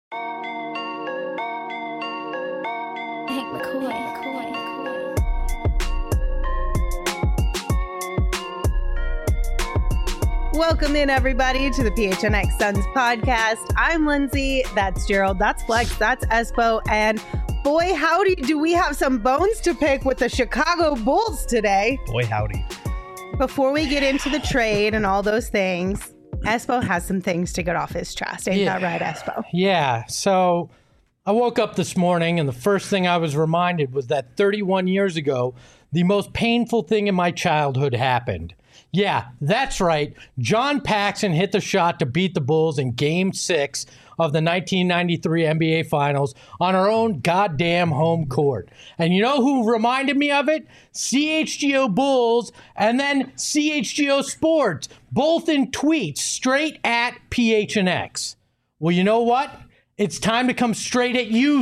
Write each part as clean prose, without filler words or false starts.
Hank McCoy. Welcome in, everybody, to the PHNX Suns podcast. I'm Lindsay. That's Gerald. That's Flex. That's Espo. And boy, howdy, do we have some bones to pick with the Chicago Bulls today. Boy, howdy. Before we get into the trade and all those things, Espo has some things to get off his chest. Ain't that right, Espo? Yeah. So I woke up this morning, and the first thing I was reminded was that 31 years ago, the most painful thing in my childhood happened. Yeah, that's right. John Paxson hit the shot to beat the Bulls in Game 6 of the 1993 NBA Finals on our own goddamn home court. And you know who reminded me of it? CHGO Bulls and then CHGO Sports, both in tweets straight at PHNX. Well, you know what? It's time to come straight at you,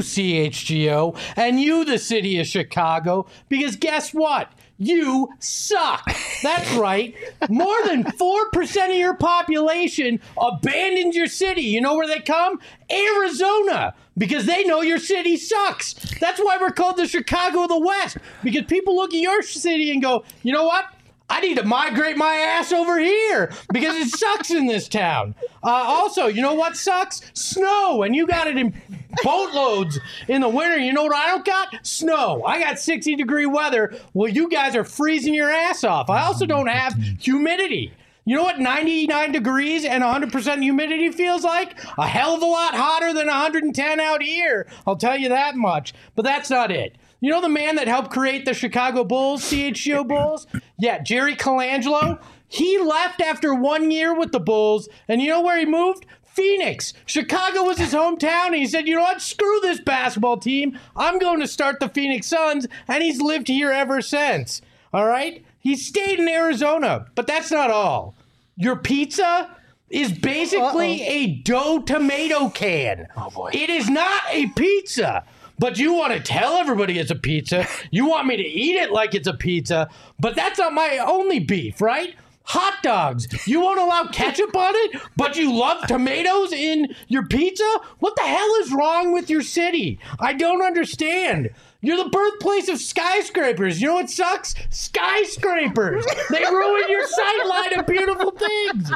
CHGO, and you, the city of Chicago, because guess what? You suck. That's right. More than 4% of your population abandons your city. You know where they come? Arizona. Because they know your city sucks. That's why we're called the Chicago of the West. Because people look at your city and go, you know what? I need to migrate my ass over here because it sucks in this town. Also, you know what sucks? Snow. And you got it in boatloads in the winter. You know what I don't got? Snow. I got 60-degree weather. Well, you guys are freezing your ass off. I also don't have humidity. You know what 99 degrees and 100% humidity feels like? A hell of a lot hotter than 110 out here. I'll tell you that much. But that's not it. You know the man that helped create the Chicago Bulls, CHGO Bulls? Yeah, Jerry Colangelo. He left after 1 year with the Bulls, and you know where he moved? Phoenix. Chicago was his hometown, and he said, you know what? Screw this basketball team. I'm going to start the Phoenix Suns, and he's lived here ever since. All right? He stayed in Arizona, but that's not all. Your pizza is basically a dough tomato can. Oh, boy. It is not a pizza. But you want to tell everybody it's a pizza. You want me to eat it like it's a pizza. But that's not my only beef, right? Hot dogs. You won't allow ketchup on it, but you love tomatoes in your pizza? What the hell is wrong with your city? I don't understand. You're the birthplace of skyscrapers. You know what sucks? Skyscrapers. They ruin your sightline of beautiful things.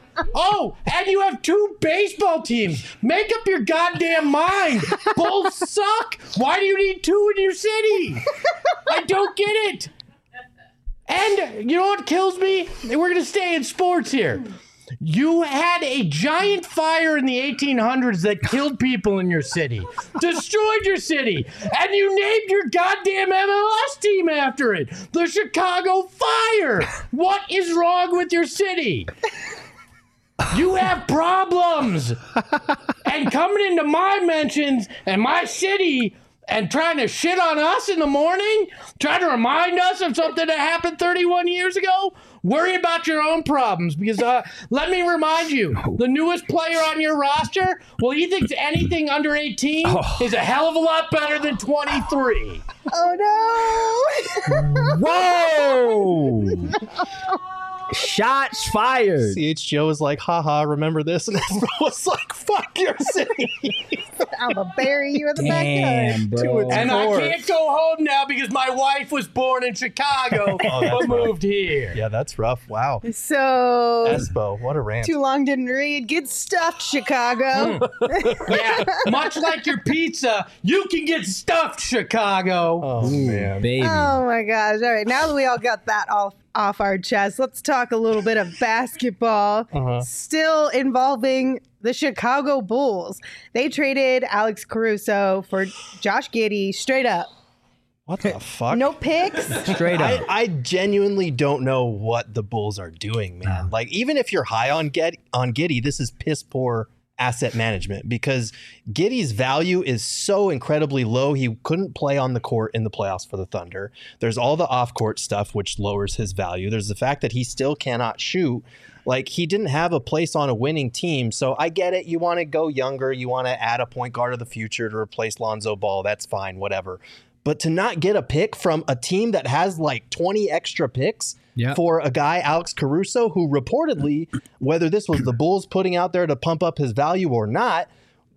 Oh, and you have two baseball teams. Make up your goddamn mind. Bulls suck. Why do you need two in your city? I don't get it. And you know what kills me? We're going to stay in sports here. You had a giant fire in the 1800s that killed people in your city, destroyed your city, and you named your goddamn MLS team after it, the Chicago Fire. What is wrong with your city? You have problems. And coming into my mentions and my city and trying to shit on us in the morning, trying to remind us of something that happened 31 years ago, worry about your own problems. Because let me remind you, the newest player on your roster, well, he thinks anything under 18 is a hell of a lot better than 23. Oh, no. Whoa. Shots fired. CHGO was like, haha, remember this? And Espo was like, fuck your city. I'm going to bury you in the backyard. Bro. And I can't go home now because my wife was born in Chicago but moved here. Yeah, that's rough. Wow. So, Espo, what a rant. too long didn't read. Get stuffed, Chicago. Yeah, much like your pizza, you can get stuffed, Chicago. Oh, man. Baby. Oh, my gosh. All right, now that we all got that off our chest, let's talk a little bit of basketball. Still involving the Chicago Bulls. They traded Alex Caruso for Josh Giddey straight up. What the fuck? No picks. Straight up. I genuinely don't know what the Bulls are doing, man. Like, even if you're high on Giddey, this is piss poor asset management because Giddey's value is so incredibly low. He couldn't play on the court in the playoffs for the Thunder. There's all the off-court stuff, which lowers his value. There's the fact that he still cannot shoot. Like, he didn't have a place on a winning team. So I get it. You want to go younger. You want to add a point guard of the future to replace Lonzo Ball. That's fine, whatever. But to not get a pick from a team that has like 20 extra picks for a guy, Alex Caruso, who reportedly, whether this was the Bulls putting out there to pump up his value or not,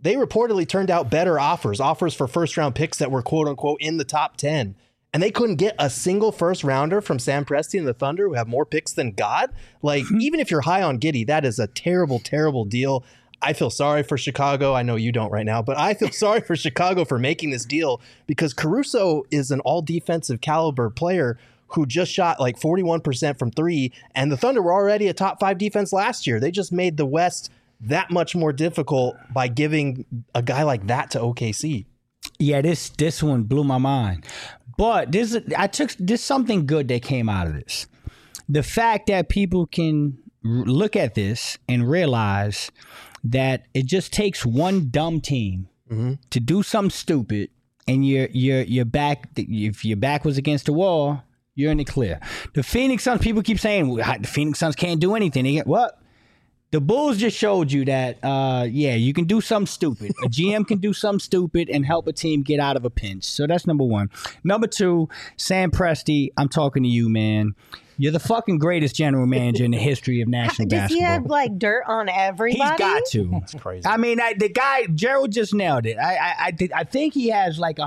they reportedly turned out better offers for first-round picks that were quote-unquote in the top 10. And they couldn't get a single first-rounder from Sam Presti and the Thunder, who have more picks than God. Like, even if you're high on Giddey, that is a terrible, terrible deal. I feel sorry for Chicago. I know you don't right now, but I feel sorry for Chicago for making this deal because Caruso is an all-defensive caliber player who just shot like 41% from three, and the Thunder were already a top 5 defense last year. They just made the West that much more difficult by giving a guy like that to OKC. Yeah, this one blew my mind. But there's something good that came out of this. The fact that people can look at this and realize that it just takes one dumb team to do something stupid, and your back, if your back was against the wall, you're in the clear. The Phoenix Suns, people keep saying the Phoenix Suns can't do anything. They get what? The Bulls just showed you that, you can do something stupid. A GM can do something stupid and help a team get out of a pinch. So that's number one. Number two, Sam Presti, I'm talking to you, man. You're the fucking greatest general manager in the history of national basketball. Does he have like dirt on everybody? He's got to. That's crazy. I mean, the guy, Gerald just nailed it. I think he has like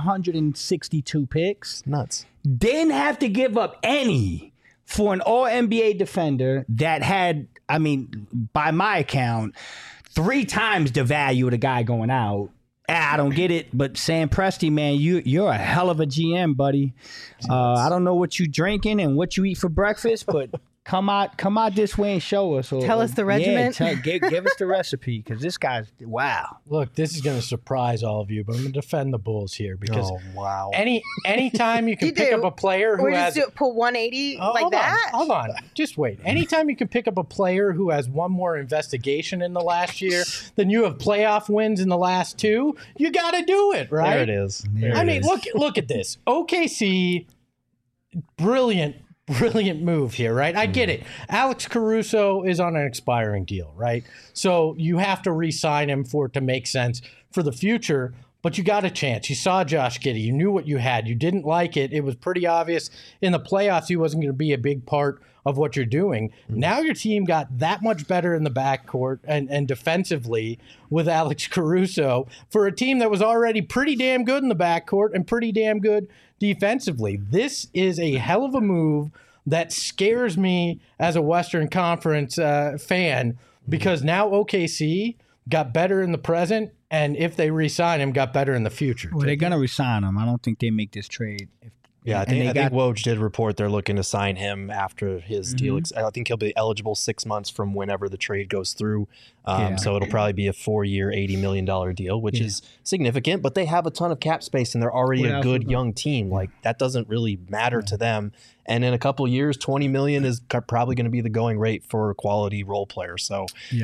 162 picks. Nuts. Didn't have to give up any for an all-NBA defender that had, I mean, by my account, 3 times the value of the guy going out. I don't get it, but Sam Presti, man, you're a hell of a GM, buddy. I don't know what you drinking and what you eat for breakfast, but come out this way and show us. Tell us the regimen. Yeah, give us the recipe, because this guy's, wow. Look, this is going to surprise all of you, but I'm going to defend the Bulls here because wow. anytime you can pick up a player who has put 180 like that. Hold on, just wait. Anytime you can pick up a player who has one more investigation in the last year than you have playoff wins in the last 2, you got to do it, right? There it is. Look at this. OKC, brilliant move here, right? I get it. Alex Caruso is on an expiring deal, right? So you have to re-sign him for it to make sense for the future, but you got a chance. You saw Josh Giddey. You knew what you had. You didn't like it. It was pretty obvious in the playoffs he wasn't going to be a big part of what you're doing. Now your team got that much better in the backcourt and defensively with Alex Caruso for a team that was already pretty damn good in the backcourt and pretty damn good defensively. This is a hell of a move that scares me as a Western Conference fan, because now OKC got better in the present, and if they re-sign him, got better in the future. Well, they're going to re-sign him. I don't think they make this trade. Yeah, I think Woj did report they're looking to sign him after his deal. I think he'll be eligible 6 months from whenever the trade goes through. So it'll probably be a 4-year, $80 million deal, which is significant. But they have a ton of cap space, and they're already a good young team. Like, that doesn't really matter to them. And in a couple of years, $20 million is probably going to be the going rate for a quality role player. So,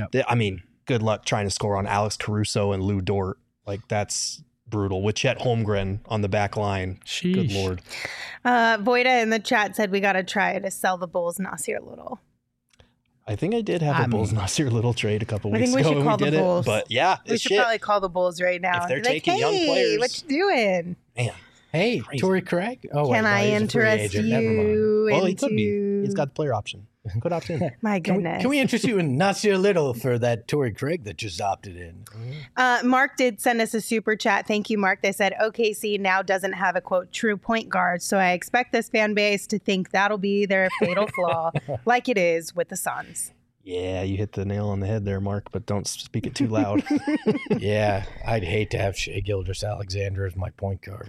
good luck trying to score on Alex Caruso and Lou Dort. Like, that's brutal with Chet Holmgren on the back line. Sheesh. Good Lord. Voida in the chat said we got to try to sell the Bulls Nasir Little. I think I did have a Bulls Nasir Little trade a couple weeks ago. I think we should call the Bulls. But yeah, we should probably call the Bulls right now. If they're taking young players. What you doing? Man. Hey, Torrey Craig. Oh, can I interest you? Well, he could be. He's got the player option. Could opt in. My goodness. Can we interest you in Nasir Little for that Torrey Craig that just opted in? Mark did send us a super chat. Thank you, Mark. They said OKC now doesn't have a, quote, true point guard. So I expect this fan base to think that'll be their fatal flaw, like it is with the Suns. Yeah, you hit the nail on the head there, Mark, but don't speak it too loud. Yeah, I'd hate to have Shai Gilgeous-Alexander as my point guard.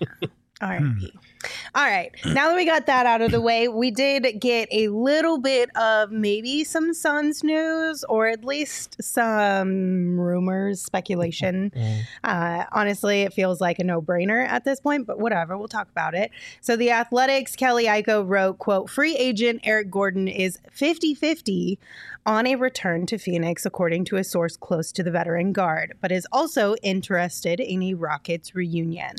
R.I.P. All right. Now that we got that out of the way, we did get a little bit of maybe some Suns news, or at least some rumors, speculation. Honestly, it feels like a no-brainer at this point, but whatever. We'll talk about it. So the Athletics' Kelly Iko wrote, quote, free agent Eric Gordon is 50-50 on a return to Phoenix, according to a source close to the veteran guard, but is also interested in a Rockets reunion.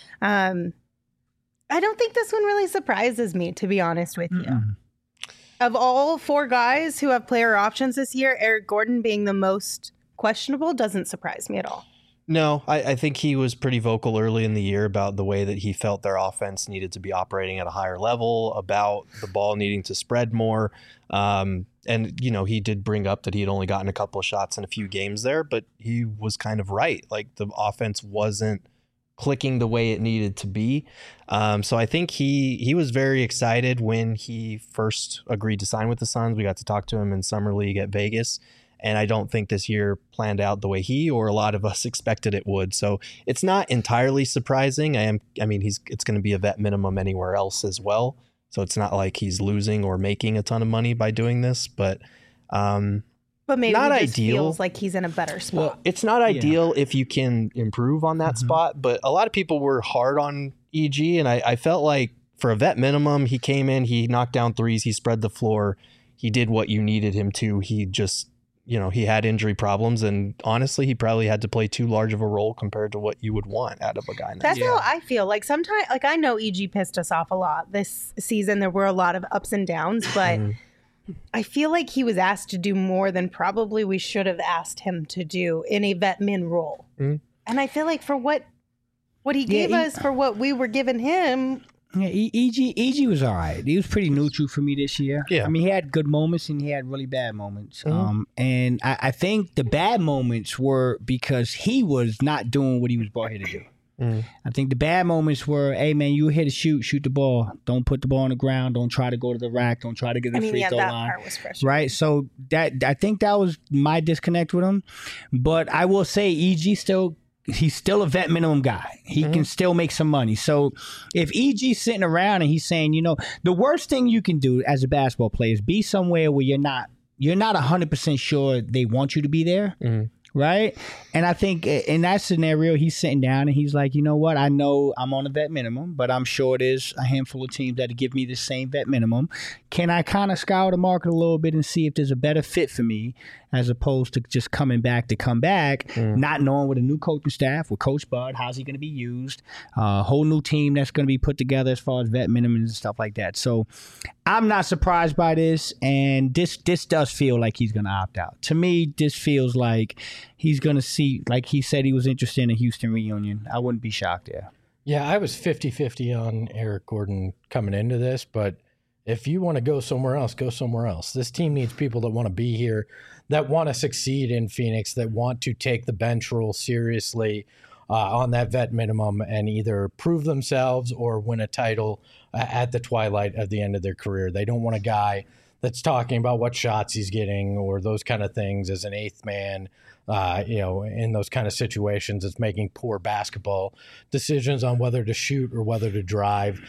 I don't think this one really surprises me, to be honest with you. Of all 4 guys who have player options this year, Eric Gordon being the most questionable doesn't surprise me at all. No, I think he was pretty vocal early in the year about the way that he felt their offense needed to be operating at a higher level, about the ball needing to spread more. And, you know, he did bring up that he had only gotten a couple of shots in a few games there, but he was kind of right. Like the offense wasn't clicking the way it needed to be. So I think he was very excited when he first agreed to sign with the Suns. We got to talk to him in Summer League at Vegas. And I don't think this year planned out the way he or a lot of us expected it would. So it's not entirely surprising. It's going to be a vet minimum anywhere else as well. So it's not like he's losing or making a ton of money by doing this, but maybe not he just ideal. Feels like he's in a better spot. Well, it's not ideal if you can improve on that spot, but a lot of people were hard on EG, and I felt like for a vet minimum, he came in, he knocked down threes, he spread the floor, he did what you needed him to. He just, you know, he had injury problems, and honestly, he probably had to play too large of a role compared to what you would want out of a guy. That's how I feel. Like sometimes, like I know EG pissed us off a lot this season. There were a lot of ups and downs, but I feel like he was asked to do more than probably we should have asked him to do in a vet min role. And I feel like for what he gave us, for what we were giving him. Yeah, EG was all right. He was pretty neutral for me this year. Yeah. I mean, he had good moments and he had really bad moments. And I think the bad moments were because he was not doing what he was brought here to do. I think the bad moments were, hey, man, you were here to shoot the ball. Don't put the ball on the ground. Don't try to go to the rack. Don't try to get the free throw that line. part was frustrating. Right? So I think that was my disconnect with him. But I will say he's still a vet minimum guy. He can still make some money. So if EG's sitting around and he's saying, you know, the worst thing you can do as a basketball player is be somewhere where you're not 100% sure they want you to be there. Right? And I think in that scenario, he's sitting down and he's like, you know what? I know I'm on a vet minimum, but I'm sure there's a handful of teams that give me the same vet minimum. Can I kind of scour the market a little bit and see if there's a better fit for me as opposed to just coming back to come back, not knowing with a new coaching staff, with Coach Bud, how's he going to be used, a whole new team that's going to be put together as far as vet minimums and stuff like that. So I'm not surprised by this, and this does feel like he's going to opt out. To me, this feels like he's going to see, like he said he was interested in a Houston reunion. I wouldn't be shocked there. Yeah, I was 50-50 on Eric Gordon coming into this, but if you want to go somewhere else, go somewhere else. This team needs people that want to be here, that want to succeed in Phoenix, that want to take the bench role seriously on that vet minimum and either prove themselves or win a title at the twilight of the end of their career. They don't want a guy that's talking about what shots he's getting or those kind of things as an eighth man, in those kind of situations. It's making poor basketball decisions on whether to shoot or whether to drive.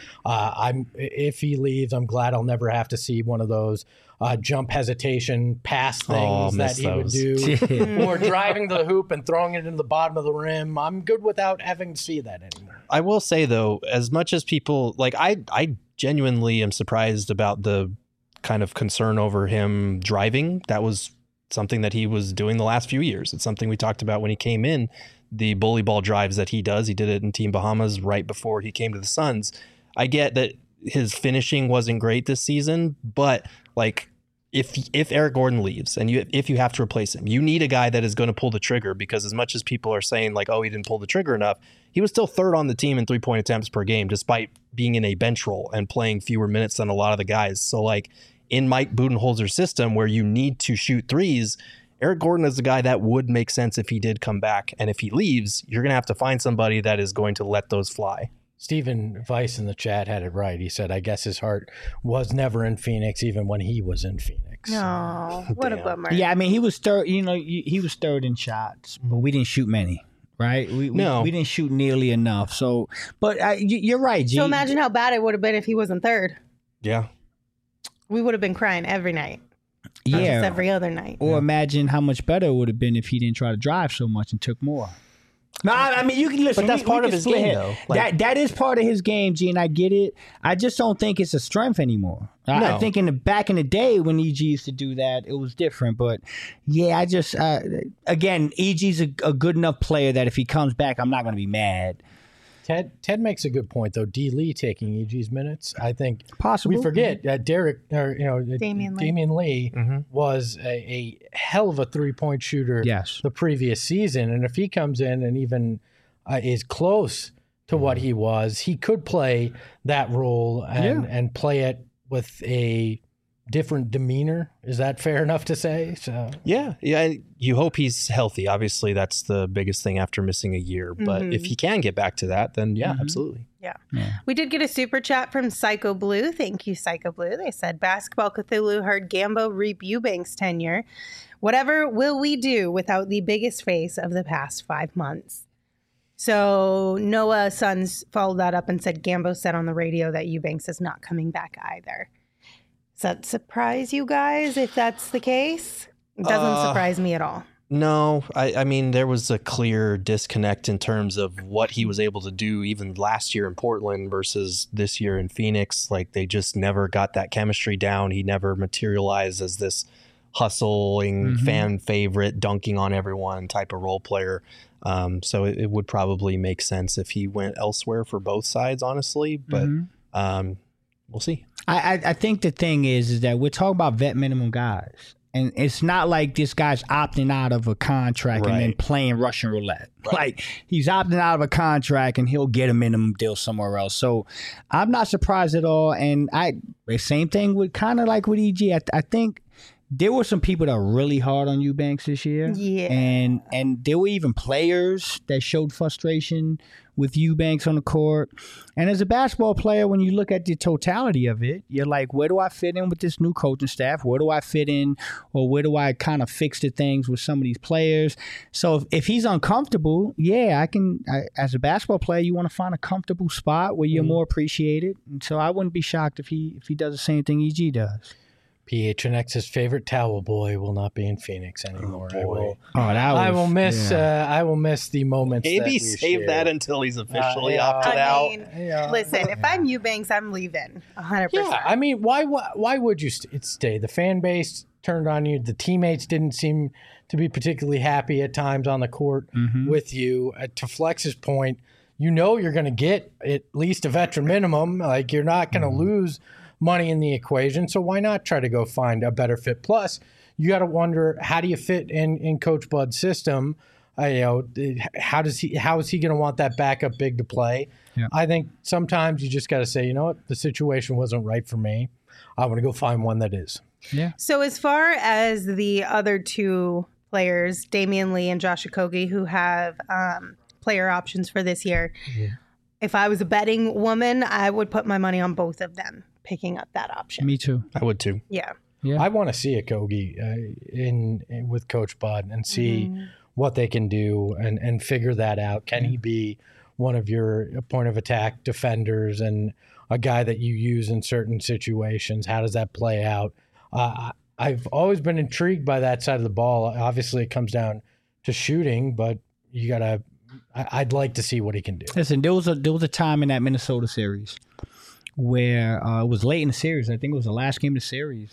If he leaves, I'm glad I'll never have to see one of those jump hesitation pass things that he would do, or driving the hoop and throwing it into the bottom of the rim. I'm good without having to see that anymore. I will say, though, as much as people, like, I genuinely am surprised about the kind of concern over him driving. That was something that he was doing the last few years. It's something we talked about when he came in, the bully ball drives that he does. He did it in Team Bahamas right before he came to the Suns. I get that his finishing wasn't great this season, but like if Eric Gordon leaves and if you have to replace him, you need a guy that is going to pull the trigger, because as much as people are saying like, oh, he didn't pull the trigger enough, he was still third on the team in 3-point attempts per game, despite being in a bench role and playing fewer minutes than a lot of the guys. So like in Mike Budenholzer's system where you need to shoot threes, Eric Gordon is the guy that would make sense if he did come back. And if he leaves, you're going to have to find somebody that is going to let those fly. Stephen Weiss in the chat had it right. He said, I guess his heart was never in Phoenix, even when he was in Phoenix. No, what a bummer. Yeah, I mean, he was third. You know, he was third in shots, but we didn't shoot many. Right? We didn't shoot nearly enough. So, but you're right, G. So imagine how bad it would have been if he wasn't third. Yeah. We would have been crying every night. Yeah. Just every other night. Or imagine how much better it would have been if he didn't try to drive so much and took more. No, I mean, you can listen. But that's part of his game, though. Like, that is part of his game, G, and I get it. I just don't think it's a strength anymore. I think back in the day when EG used to do that, it was different. But yeah, I just again, EG's a good enough player that if he comes back, I'm not going to be mad. Ted makes a good point, though. D. Lee taking EG's minutes, I think. Possible. We forget Damian Lee was a hell of a 3-point shooter. Yes. The previous season, and if he comes in and even is close to what he was, he could play that role and play it with a different demeanor. Is that fair enough to say? So Yeah. You hope he's healthy. Obviously, that's the biggest thing after missing a year. But if he can get back to that, then absolutely. Yeah. We did get a super chat from Psycho Blue. Thank you, Psycho Blue. They said, Basketball Cthulhu heard Gambo reap Eubanks' tenure. Whatever will we do without the biggest face of the past 5 months? So Noah Sons followed that up and said, Gambo said on the radio that Eubanks is not coming back either. Does that surprise you guys if that's the case? It doesn't surprise me at all. No, I mean, there was a clear disconnect in terms of what he was able to do even last year in Portland versus this year in Phoenix. Like, they just never got that chemistry down. He never materialized as this hustling fan favorite, dunking on everyone type of role player. So it would probably make sense if he went elsewhere for both sides, honestly. But we'll see. I think the thing is that we're talking about vet minimum guys. And it's not like this guy's opting out of a contract and then playing Russian roulette. Right. Like, he's opting out of a contract and he'll get a minimum deal somewhere else. So I'm not surprised at all. And the same thing with kind of like with EG. I think there were some people that were really hard on Eubanks this year. Yeah. And there were even players that showed frustration with Eubanks on the court. And as a basketball player, when you look at the totality of it, you're like, where do I fit in with this new coaching staff? Where do I fit in? Or where do I kind of fix the things with some of these players? So if he's uncomfortable, as a basketball player, you want to find a comfortable spot where you're more appreciated. And so I wouldn't be shocked if he does the same thing EG does. PHNX's favorite towel boy will not be in Phoenix anymore. I will miss the moments. Maybe save that until he's officially opted out. Listen, if I'm Eubanks, I'm leaving 100%. Yeah, I mean, why would you stay? The fan base turned on you. The teammates didn't seem to be particularly happy at times on the court with you. To Flex's point, you're going to get at least a veteran minimum. Like, you're not going to lose money in the equation, so why not try to go find a better fit? Plus, you got to wonder, how do you fit in Coach Bud's system? How is he going to want that backup big to play? Yeah. I think sometimes you just got to say, you know what, the situation wasn't right for me. I want to go find one that is. Yeah. So as far as the other two players, Damian Lee and Josh Okogie, who have player options for this year, if I was a betting woman, I would put my money on both of them picking up that option. Me too. I would too. Yeah. I want to see Okogie in with Coach Bud and see what they can do and figure that out. Can he be one of your point of attack defenders and a guy that you use in certain situations? How does that play out? I've always been intrigued by that side of the ball. Obviously, it comes down to shooting, but you gotta. I'd like to see what he can do. Listen, there was a time in that Minnesota series where it was late in the series. I think it was the last game of the series.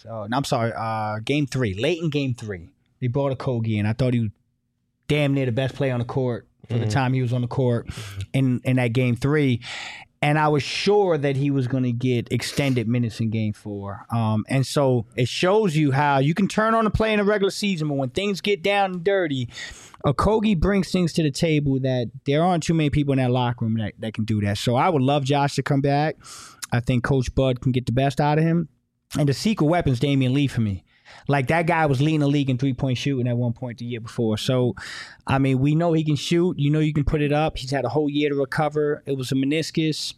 Game 3. Late in game 3, they brought Okogie, and I thought he was damn near the best player on the court for the time he was on the court in that game 3. And I was sure that he was going to get extended minutes in game 4. And so it shows you how you can turn on a play in the regular season, but when things get down and dirty, Okogie brings things to the table that there aren't too many people in that locker room that can do that. So I would love Josh to come back. I think Coach Bud can get the best out of him. And the secret weapon's Damian Lee for me. Like, that guy was leading the league in three-point shooting at one point the year before. So, I mean, we know he can shoot. You know you can put it up. He's had a whole year to recover. It was a meniscus.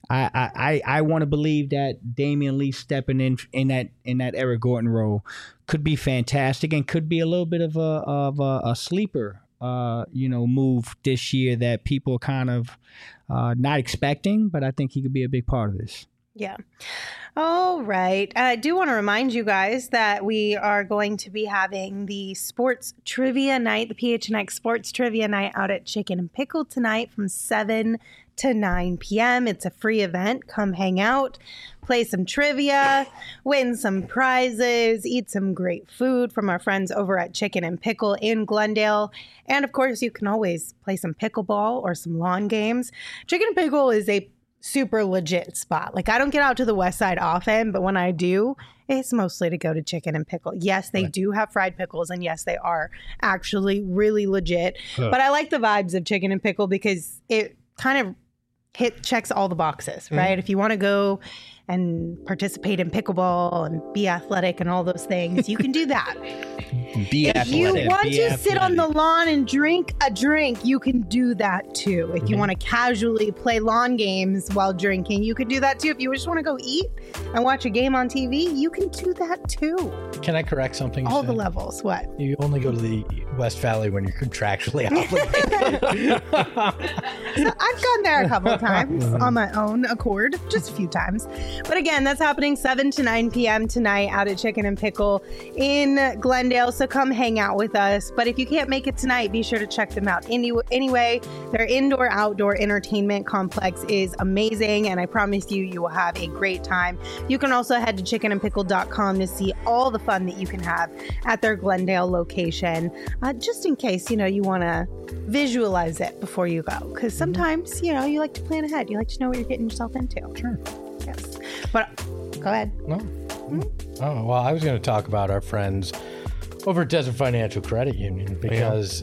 I want to believe that Damian Lee stepping in that Eric Gordon role could be fantastic and could be a little bit of a sleeper move this year that people kind of not expecting, but I think he could be a big part of this. Yeah. All right. I do want to remind you guys that we are going to be having the sports trivia night, the PHNX sports trivia night out at Chicken and Pickle tonight from 7 to 9 p.m. It's a free event. Come hang out, play some trivia, win some prizes, eat some great food from our friends over at Chicken and Pickle in Glendale. And of course, you can always play some pickleball or some lawn games. Chicken and Pickle is a super legit spot. Like, I don't get out to the west side often, but when I do, it's mostly to go to Chicken and Pickle. Yes, they do have fried pickles, and yes, they are actually really legit. But I like the vibes of Chicken and Pickle because it kind of checks all the boxes, right? If you want to go and participate in pickleball and be athletic and all those things, you can do that. If you want to sit on the lawn and drink a drink, you can do that too. If you want to casually play lawn games while drinking, you can do that too. If you just want to go eat and watch a game on TV, you can do that too. Can I correct something? All the levels. What? You only go to the West Valley when you're contractually obligated. So I've gone there a couple of times on my own accord, just a few times. But again, that's happening 7 to 9 p.m. tonight out at Chicken and Pickle in Glendale. So come hang out with us. But if you can't make it tonight, be sure to check them out. Anyway, their indoor-outdoor entertainment complex is amazing. And I promise you, you will have a great time. You can also head to chickenandpickle.com to see all the fun that you can have at their Glendale location. Just in case, you want to visualize it before you go. Because sometimes, you like to plan ahead. You like to know what you're getting yourself into. Sure. Yes. But go ahead. No. Oh, well, I was going to talk about our friends over at Desert Financial Credit Union because,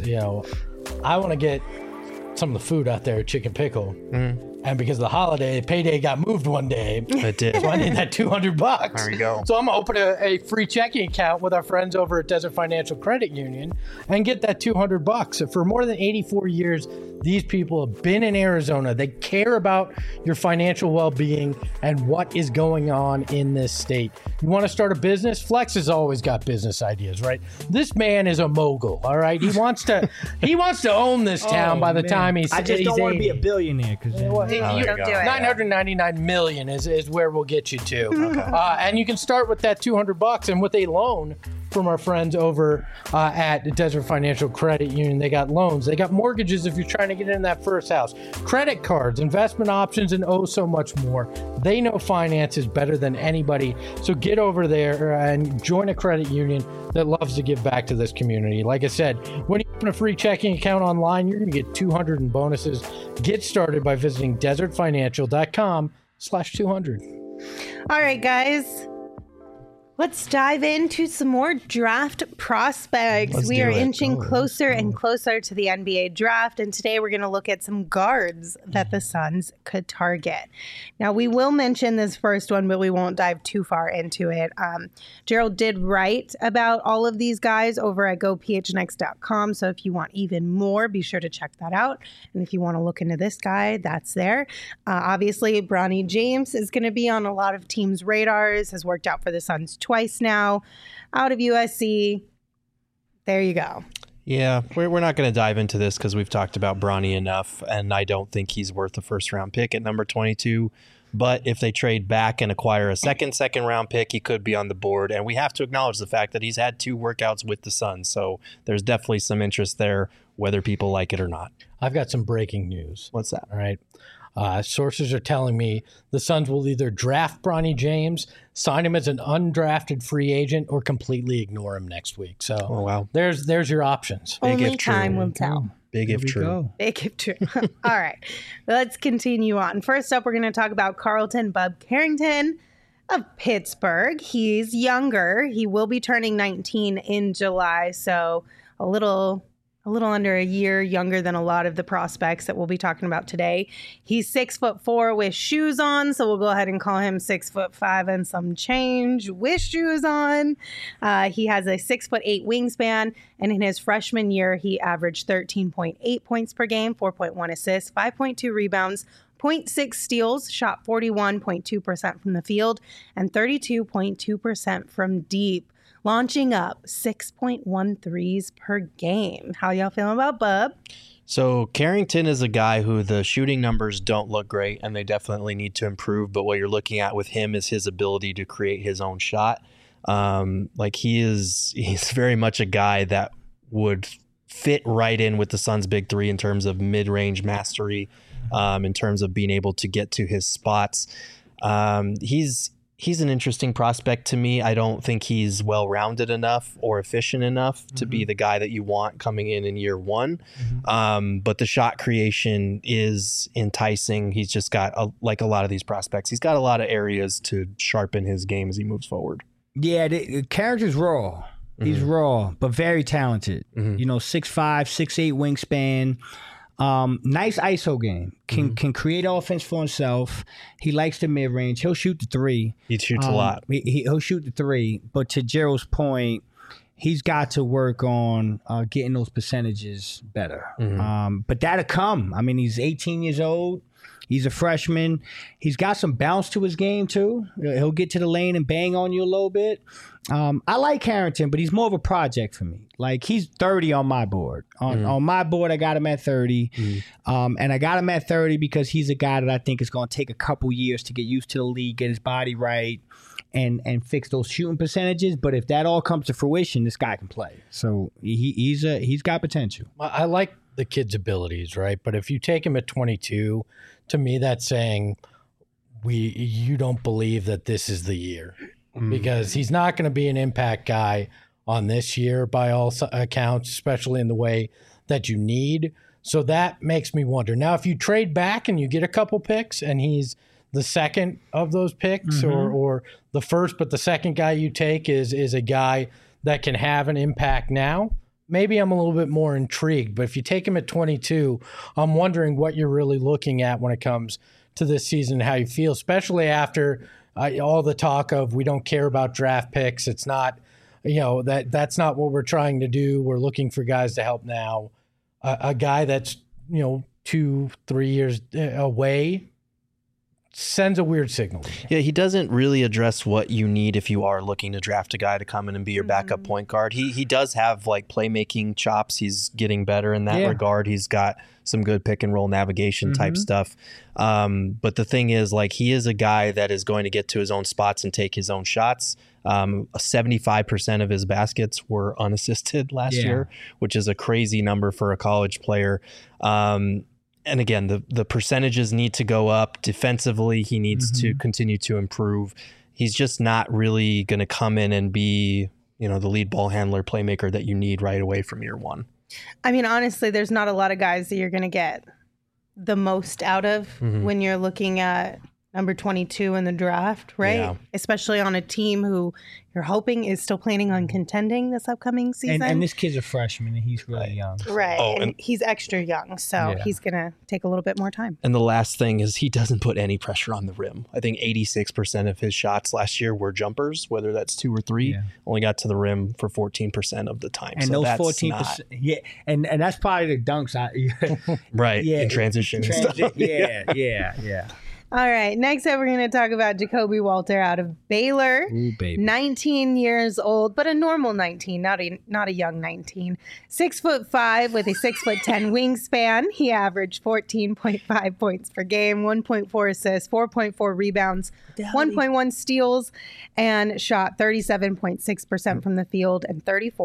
I want to get some of the food out there at Chicken Pickle. And because of the holiday, payday got moved one day. It did. So I need that $200. There you go. So I'm going to open a free checking account with our friends over at Desert Financial Credit Union and get that $200. For more than 84 years, these people have been in Arizona. They care about your financial well-being and what is going on in this state. You want to start a business? Flex has always got business ideas, right? This man is a mogul, all right? He wants to own this town by the time he's I just don't want to be a billionaire because You don't do it. $999 million is where we'll get you to. And you can start with that $200 and with a loan from our friends over at Desert Financial Credit Union. They got loans. They got mortgages if you're trying to get in that first house. Credit cards, investment options, and so much more. They know finances better than anybody. So get over there and join a credit union that loves to give back to this community. Like I said, when you open a free checking account online, you're going to get $200 in bonuses. Get started by visiting desertfinancial.com/200. All right, guys. Let's dive into some more draft prospects. We are inching closer and closer to the NBA draft, and today we're going to look at some guards that the Suns could target. Now, we will mention this first one, but we won't dive too far into it. Gerald did write about all of these guys over at gophnx.com, so if you want even more, be sure to check that out. And if you want to look into this guy, that's there. Obviously, Bronny James is going to be on a lot of teams' radars, has worked out for the Suns twice now, out of USC. There you go. Yeah, we're not going to dive into this because we've talked about Bronny enough, and I don't think he's worth a first-round pick at number 22. But if they trade back and acquire a second-round pick, he could be on the board. And we have to acknowledge the fact that he's had 2 workouts with the Suns, so there's definitely some interest there, whether people like it or not. I've got some breaking news. What's that? All right. Sources are telling me the Suns will either draft Bronny James, sign him as an undrafted free agent, or completely ignore him next week. So wow. There's your options. Big Only if true. time will tell. Big if true. Big if true. All right. Let's continue on. First up, we're going to talk about Carlton Bub Carrington of Pittsburgh. He's younger. He will be turning 19 in July, so a little under a year younger than a lot of the prospects that we'll be talking about today. He's 6'4" with shoes on, so we'll go ahead and call him 6'5" and some change with shoes on. He has a 6'8" wingspan, and in his freshman year, he averaged 13.8 points per game, 4.1 assists, 5.2 rebounds, 0.6 steals, shot 41.2% from the field, and 32.2% from deep, launching up 6.1 threes per game. How y'all feeling about Bub? So Carrington is a guy who the shooting numbers don't look great, and they definitely need to improve. But what you're looking at with him is his ability to create his own shot. He's very much a guy that would fit right in with the Suns' big three in terms of mid-range mastery, in terms of being able to get to his spots. He's an interesting prospect to me. I don't think he's well-rounded enough or efficient enough to be the guy that you want coming in year one. But the shot creation is enticing. He's just got, like a lot of these prospects, he's got a lot of areas to sharpen his game as he moves forward. Yeah, the character's raw. He's raw, but very talented. 6'5", 6'8" wingspan. Nice ISO game. Can create offense for himself. He likes the mid range. He'll shoot the three. He shoots a lot. He'll shoot the three. But to Gerald's point, he's got to work on getting those percentages better. But that'll come. I mean, he's 18 years old. He's a freshman. He's got some bounce to his game, too. He'll get to the lane and bang on you a little bit. I like Harrington, but he's more of a project for me. Like, he's 30 on my board. On my board, I got him at 30. And I got him at 30 because he's a guy that I think is going to take a couple years to get used to the league, get his body right, and fix those shooting percentages. But if that all comes to fruition, this guy can play. So he's got potential. I like the kid's abilities, right? But if you take him at 22, to me, that's saying you don't believe that this is the year, because he's not going to be an impact guy on this year by all accounts, especially in the way that you need. So that makes me wonder. Now, if you trade back and you get a couple picks and he's the second of those picks or the first, but the second guy you take is a guy that can have an impact now, maybe I'm a little bit more intrigued. But if you take him at 22, I'm wondering what you're really looking at when it comes to this season, how you feel, especially after all the talk of we don't care about draft picks. It's not, that's not what we're trying to do. We're looking for guys to help now. A guy that's, 2-3 years away sends a weird signal. Yeah, he doesn't really address what you need if you are looking to draft a guy to come in and be your backup point guard. He does have like playmaking chops. He's getting better in that regard. He's got some good pick and roll navigation type stuff. But the thing is, like, he is a guy that is going to get to his own spots and take his own shots. 75% of his baskets were unassisted last year, which is a crazy number for a college player. And again, the percentages need to go up. Defensively, he needs to continue to improve. He's just not really going to come in and be, the lead ball handler, playmaker that you need right away from year one. I mean, honestly, there's not a lot of guys that you're going to get the most out of when you're looking at number 22 in the draft, right? Yeah. Especially on a team who you're hoping is still planning on contending this upcoming season. And this kid's a freshman, and he's really young. Right. And he's extra young, so he's going to take a little bit more time. And the last thing is he doesn't put any pressure on the rim. I think 86% of his shots last year were jumpers, whether that's 2 or 3. Only got to the rim for 14% of the time. And so those 14%, and that's probably the dunks. In transition and stuff. Yeah. All right. Next up, we're going to talk about Jacoby Walter out of Baylor. Ooh, baby. 19 years old, but a normal 19, not a young 19. 6'5" with a 6'10" wingspan. He averaged 14.5 points per game, 1.4 assists, 4.4 rebounds, 1.1 steals, and shot 37.6% from the field and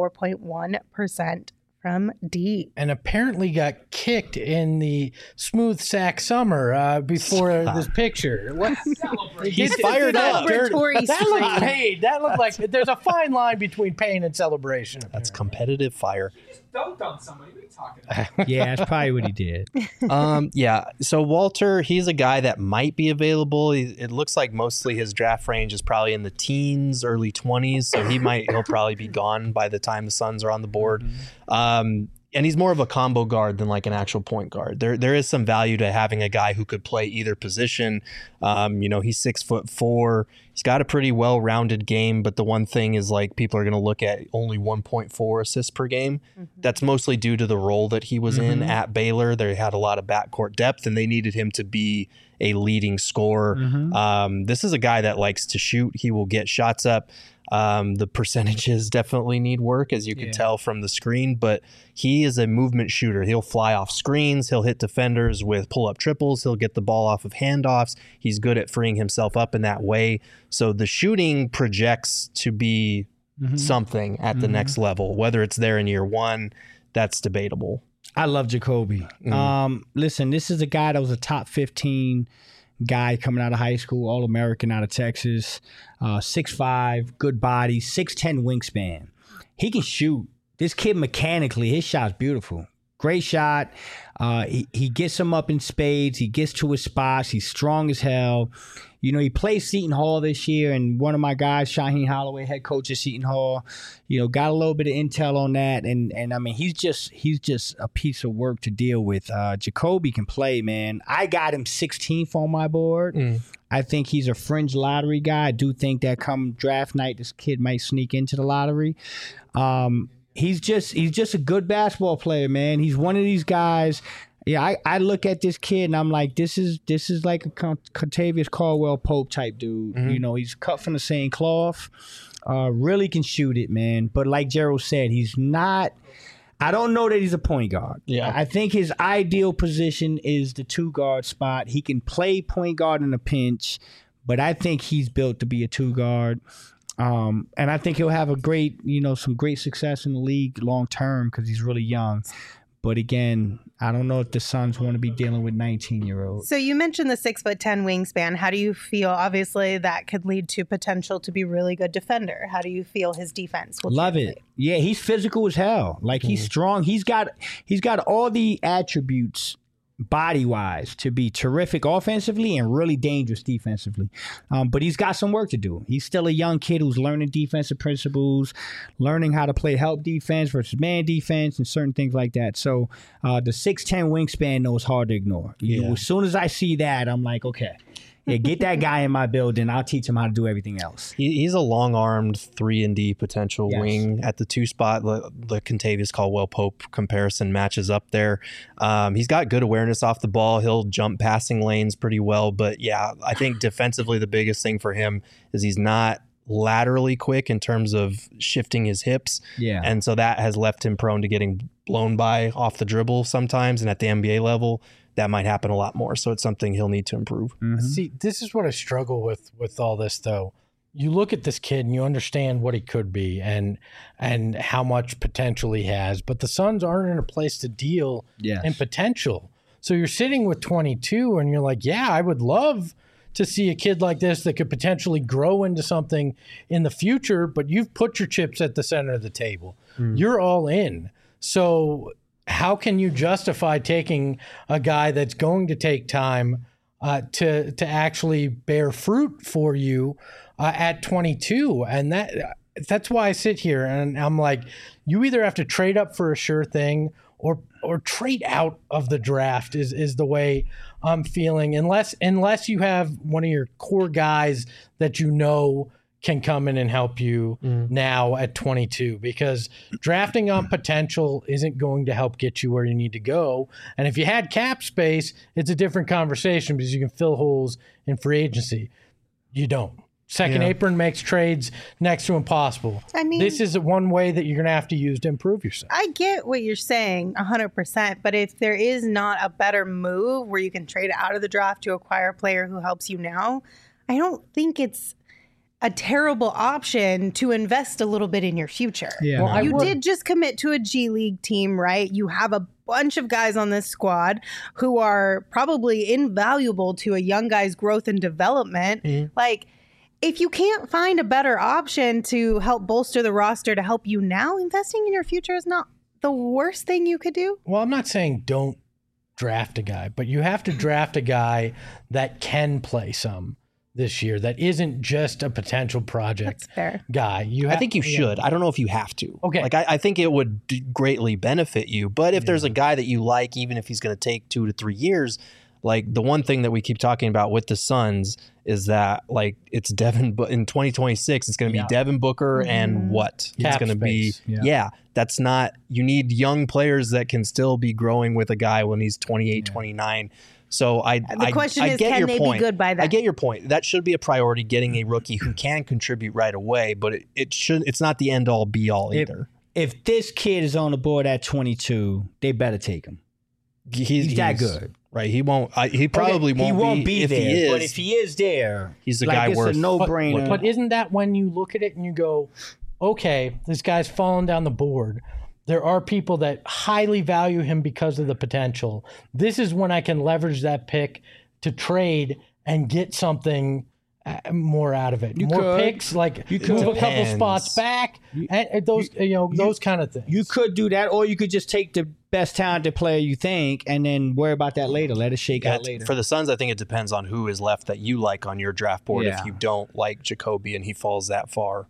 34.1% from deep. And apparently got kicked in the Smooth Sack Summer before this picture. He's fired up. That looked like there's a fine line between pain and celebration. That's competitive fire. Dunked on somebody. What are you talking about? Yeah, that's probably what he did. So Walter, he's a guy that might be available. It looks like mostly his draft range is probably in the teens, early 20s. So he'll probably be gone by the time the Suns are on the board. And he's more of a combo guard than like an actual point guard. There is some value to having a guy who could play either position. He's 6'4". He's got a pretty well-rounded game, but the one thing is like people are going to look at only 1.4 assists per game. That's mostly due to the role that he was in at Baylor. They had a lot of backcourt depth, and they needed him to be a leading scorer. This is a guy that likes to shoot. He will get shots up. The percentages definitely need work, as you can tell from the screen, but he is a movement shooter. He'll fly off screens. He'll hit defenders with pull-up triples. He'll get the ball off of handoffs. He's good at freeing himself up in that way. So the shooting projects to be something at the next level. Whether it's there in year one, that's debatable. I love Jacoby. Listen, this is a guy that was a top 15 guy coming out of high school, All-American out of Texas, 6'5", good body, 6'10" wingspan. He can shoot. This kid mechanically, his shot's beautiful. Great shot. He gets him up in spades. He gets to his spots. He's strong as hell. You know, he plays Seton Hall this year, and one of my guys, Shaheen Holloway, head coach at Seton Hall, you know, got a little bit of intel on that, and I mean, he's just a piece of work to deal with. Jacoby can play, man. I got him 16th on my board. I think he's a fringe lottery guy. I do think that come draft night, this kid might sneak into the lottery. He's just a good basketball player, man. He's one of these guys. Yeah, I look at this kid and I'm like, this is like a Contavious Caldwell Pope type dude. You know, he's cut from the same cloth. Really can shoot it, man. But like Gerald said, he's not. I don't know that he's a point guard. Yeah, I think his ideal position is the 2-guard spot. He can play point guard in a pinch, but I think he's built to be a 2-guard. And I think he'll have some great success in the league long term because he's really young. But again, I don't know if the Suns want to be dealing with 19-year-olds. So you mentioned the 6'10" wingspan. How do you feel? Obviously, that could lead to potential to be really good defender. How do you feel his defense will Love translate? it. Yeah, he's physical as hell. Like he's strong. He's got all the attributes body-wise to be terrific offensively and really dangerous defensively. But he's got some work to do. He's still a young kid who's learning defensive principles, learning how to play help defense versus man defense and certain things like that. So the 6'10" wingspan, though, is hard to ignore. You know, as soon as I see that, I'm like, okay. Yeah, get that guy in my building. I'll teach him how to do everything else. He's a long-armed 3-and-D potential wing at the 2 spot. The Contavious Caldwell Pope comparison matches up there. He's got good awareness off the ball. He'll jump passing lanes pretty well. But yeah, I think defensively the biggest thing for him is he's not laterally quick in terms of shifting his hips. Yeah. And so that has left him prone to getting blown by off the dribble sometimes. And at the NBA level, that might happen a lot more. So it's something he'll need to improve. See, this is what I struggle with all this, though. You look at this kid and you understand what he could be and how much potential he has, but the Suns aren't in a place to deal in potential. So you're sitting with 22 and you're like, yeah, I would love to see a kid like this that could potentially grow into something in the future, but you've put your chips at the center of the table. You're all in. So how can you justify taking a guy that's going to take time to actually bear fruit for you at 22? And that's why I sit here and I'm like, you either have to trade up for a sure thing or trade out of the draft is the way I'm feeling. Unless you have one of your core guys that you know can come in and help you now at 22, because drafting on potential isn't going to help get you where you need to go. And if you had cap space, it's a different conversation because you can fill holes in free agency. You don't. Second apron makes trades next to impossible. I mean, this is one way that you're going to have to use to improve yourself. I get what you're saying 100%, but if there is not a better move where you can trade out of the draft to acquire a player who helps you now, I don't think it's a terrible option to invest a little bit in your future. Yeah. Well, You did just commit to a G League team, right? You have a bunch of guys on this squad who are probably invaluable to a young guy's growth and development. Like, if you can't find a better option to help bolster the roster to help you now, investing in your future is not the worst thing you could do. Well, I'm not saying don't draft a guy, but you have to draft a guy that can play some this year, that isn't just a potential project That's fair. guy. I think you should. I don't know if you have to. Okay. Like I think it would greatly benefit you. But if there's a guy that you like, even if he's going to take 2 to 3 years, like the one thing that we keep talking about with the Suns is that like it's Devin, but in 2026 it's going to be Devin Booker and what Cap it's going to be. space. That's not. You need young players that can still be growing with a guy when he's 28, 29. So The question is, get can your they point. be good by then? I get your point. That should be a priority, getting a rookie who can contribute right away, but it should. It's not the end all be all either. If this kid is on the board at 22, they better take him. He's that good. Right. He won't. He probably He won't be if there. He is, but if he is there, he's the like, guy it's worth. a no-brainer. But isn't that when you look at it and you go, okay, this guy's falling down the board. There are people that highly value him because of the potential. This is when I can leverage that pick to trade and get something more out of it. You More could. picks, like You could. move a couple Depends. spots back, and those those kind of things. You could do that, or you could just take the best talented player you think, and then worry about that later. Let it shake out later. For the Suns, I think it depends on who is left that you like on your draft board. Yeah. If you don't like Jacoby and he falls that far,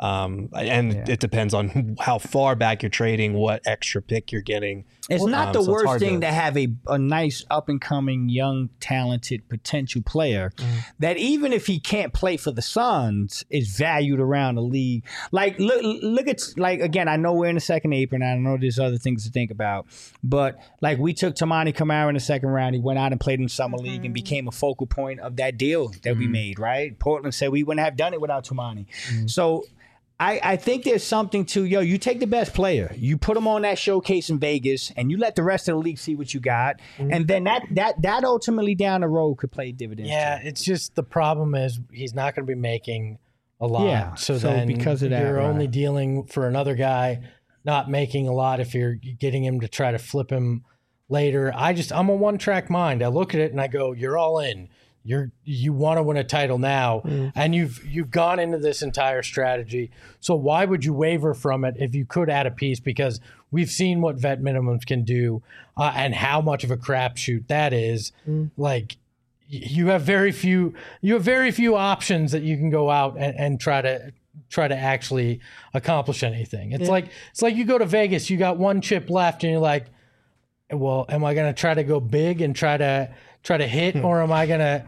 it depends on how far back you're trading, what extra pick you're getting. It's not the so it's worst hard thing to- to have a nice up and coming young talented potential player that even if he can't play for the Suns is valued around the league. Like look at, like, again, I know we're in the second apron, I know there's other things to think about, but like we took Tamani Kamara in the second round. He went out and played in the summer league and became a focal point of that deal that we made, right? Portland said we wouldn't have done it without Tamani. So I think there's something to, you take the best player, you put him on that showcase in Vegas, and you let the rest of the league see what you got, and then that ultimately down the road could play dividends. Yeah, too. it's just the problem is he's not going to be making a lot. Yeah, So so then because of that, you're right. only dealing for another guy not making a lot if you're getting him to try to flip him later. I'm a one-track mind. I look at it and I go, you're all in. You want to win a title now, and you've gone into this entire strategy. So why would you waver from it if you could add a piece? Because we've seen what vet minimums can do, and how much of a crapshoot that is. Like you have very few options that you can go out and try to actually accomplish anything. It's like you go to Vegas, you got one chip left, and you're like, well, am I going to try to go big and try to hit, or am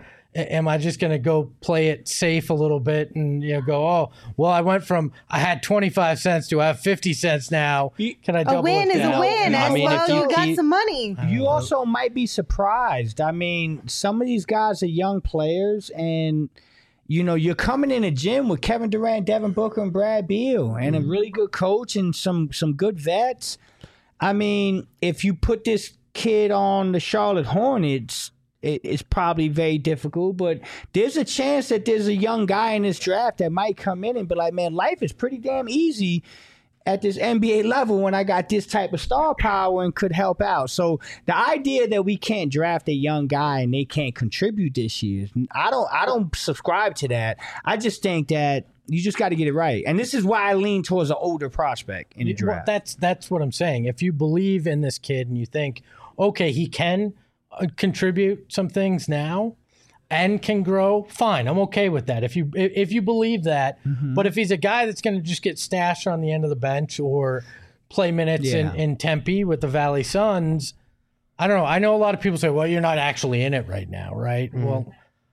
I just going to go play it safe a little bit and go, oh, well, I had 25 cents to I have 50 cents now. Can I double A win it is down? a win. I As mean, well, if you you got keep- some money. You also might be surprised. I mean, some of these guys are young players, and you're coming in a gym with Kevin Durant, Devin Booker, and Brad Beal, and a really good coach and some good vets. I mean, if you put this kid on the Charlotte Hornets, it's probably very difficult, but there's a chance that there's a young guy in this draft that might come in and be like, man, life is pretty damn easy at this NBA level when I got this type of star power and could help out. So the idea that we can't draft a young guy and they can't contribute this year, I don't subscribe to that. I just think that you just got to get it right. And this is why I lean towards an older prospect in the draft. Well, that's what I'm saying. If you believe in this kid and you think, okay, he can contribute some things now and can grow, fine. I'm okay with that. If you believe that, but if he's a guy that's going to just get stashed on the end of the bench or play minutes in Tempe with the Valley Suns, I don't know. I know a lot of people say, well, you're not actually in it right now, right? Well,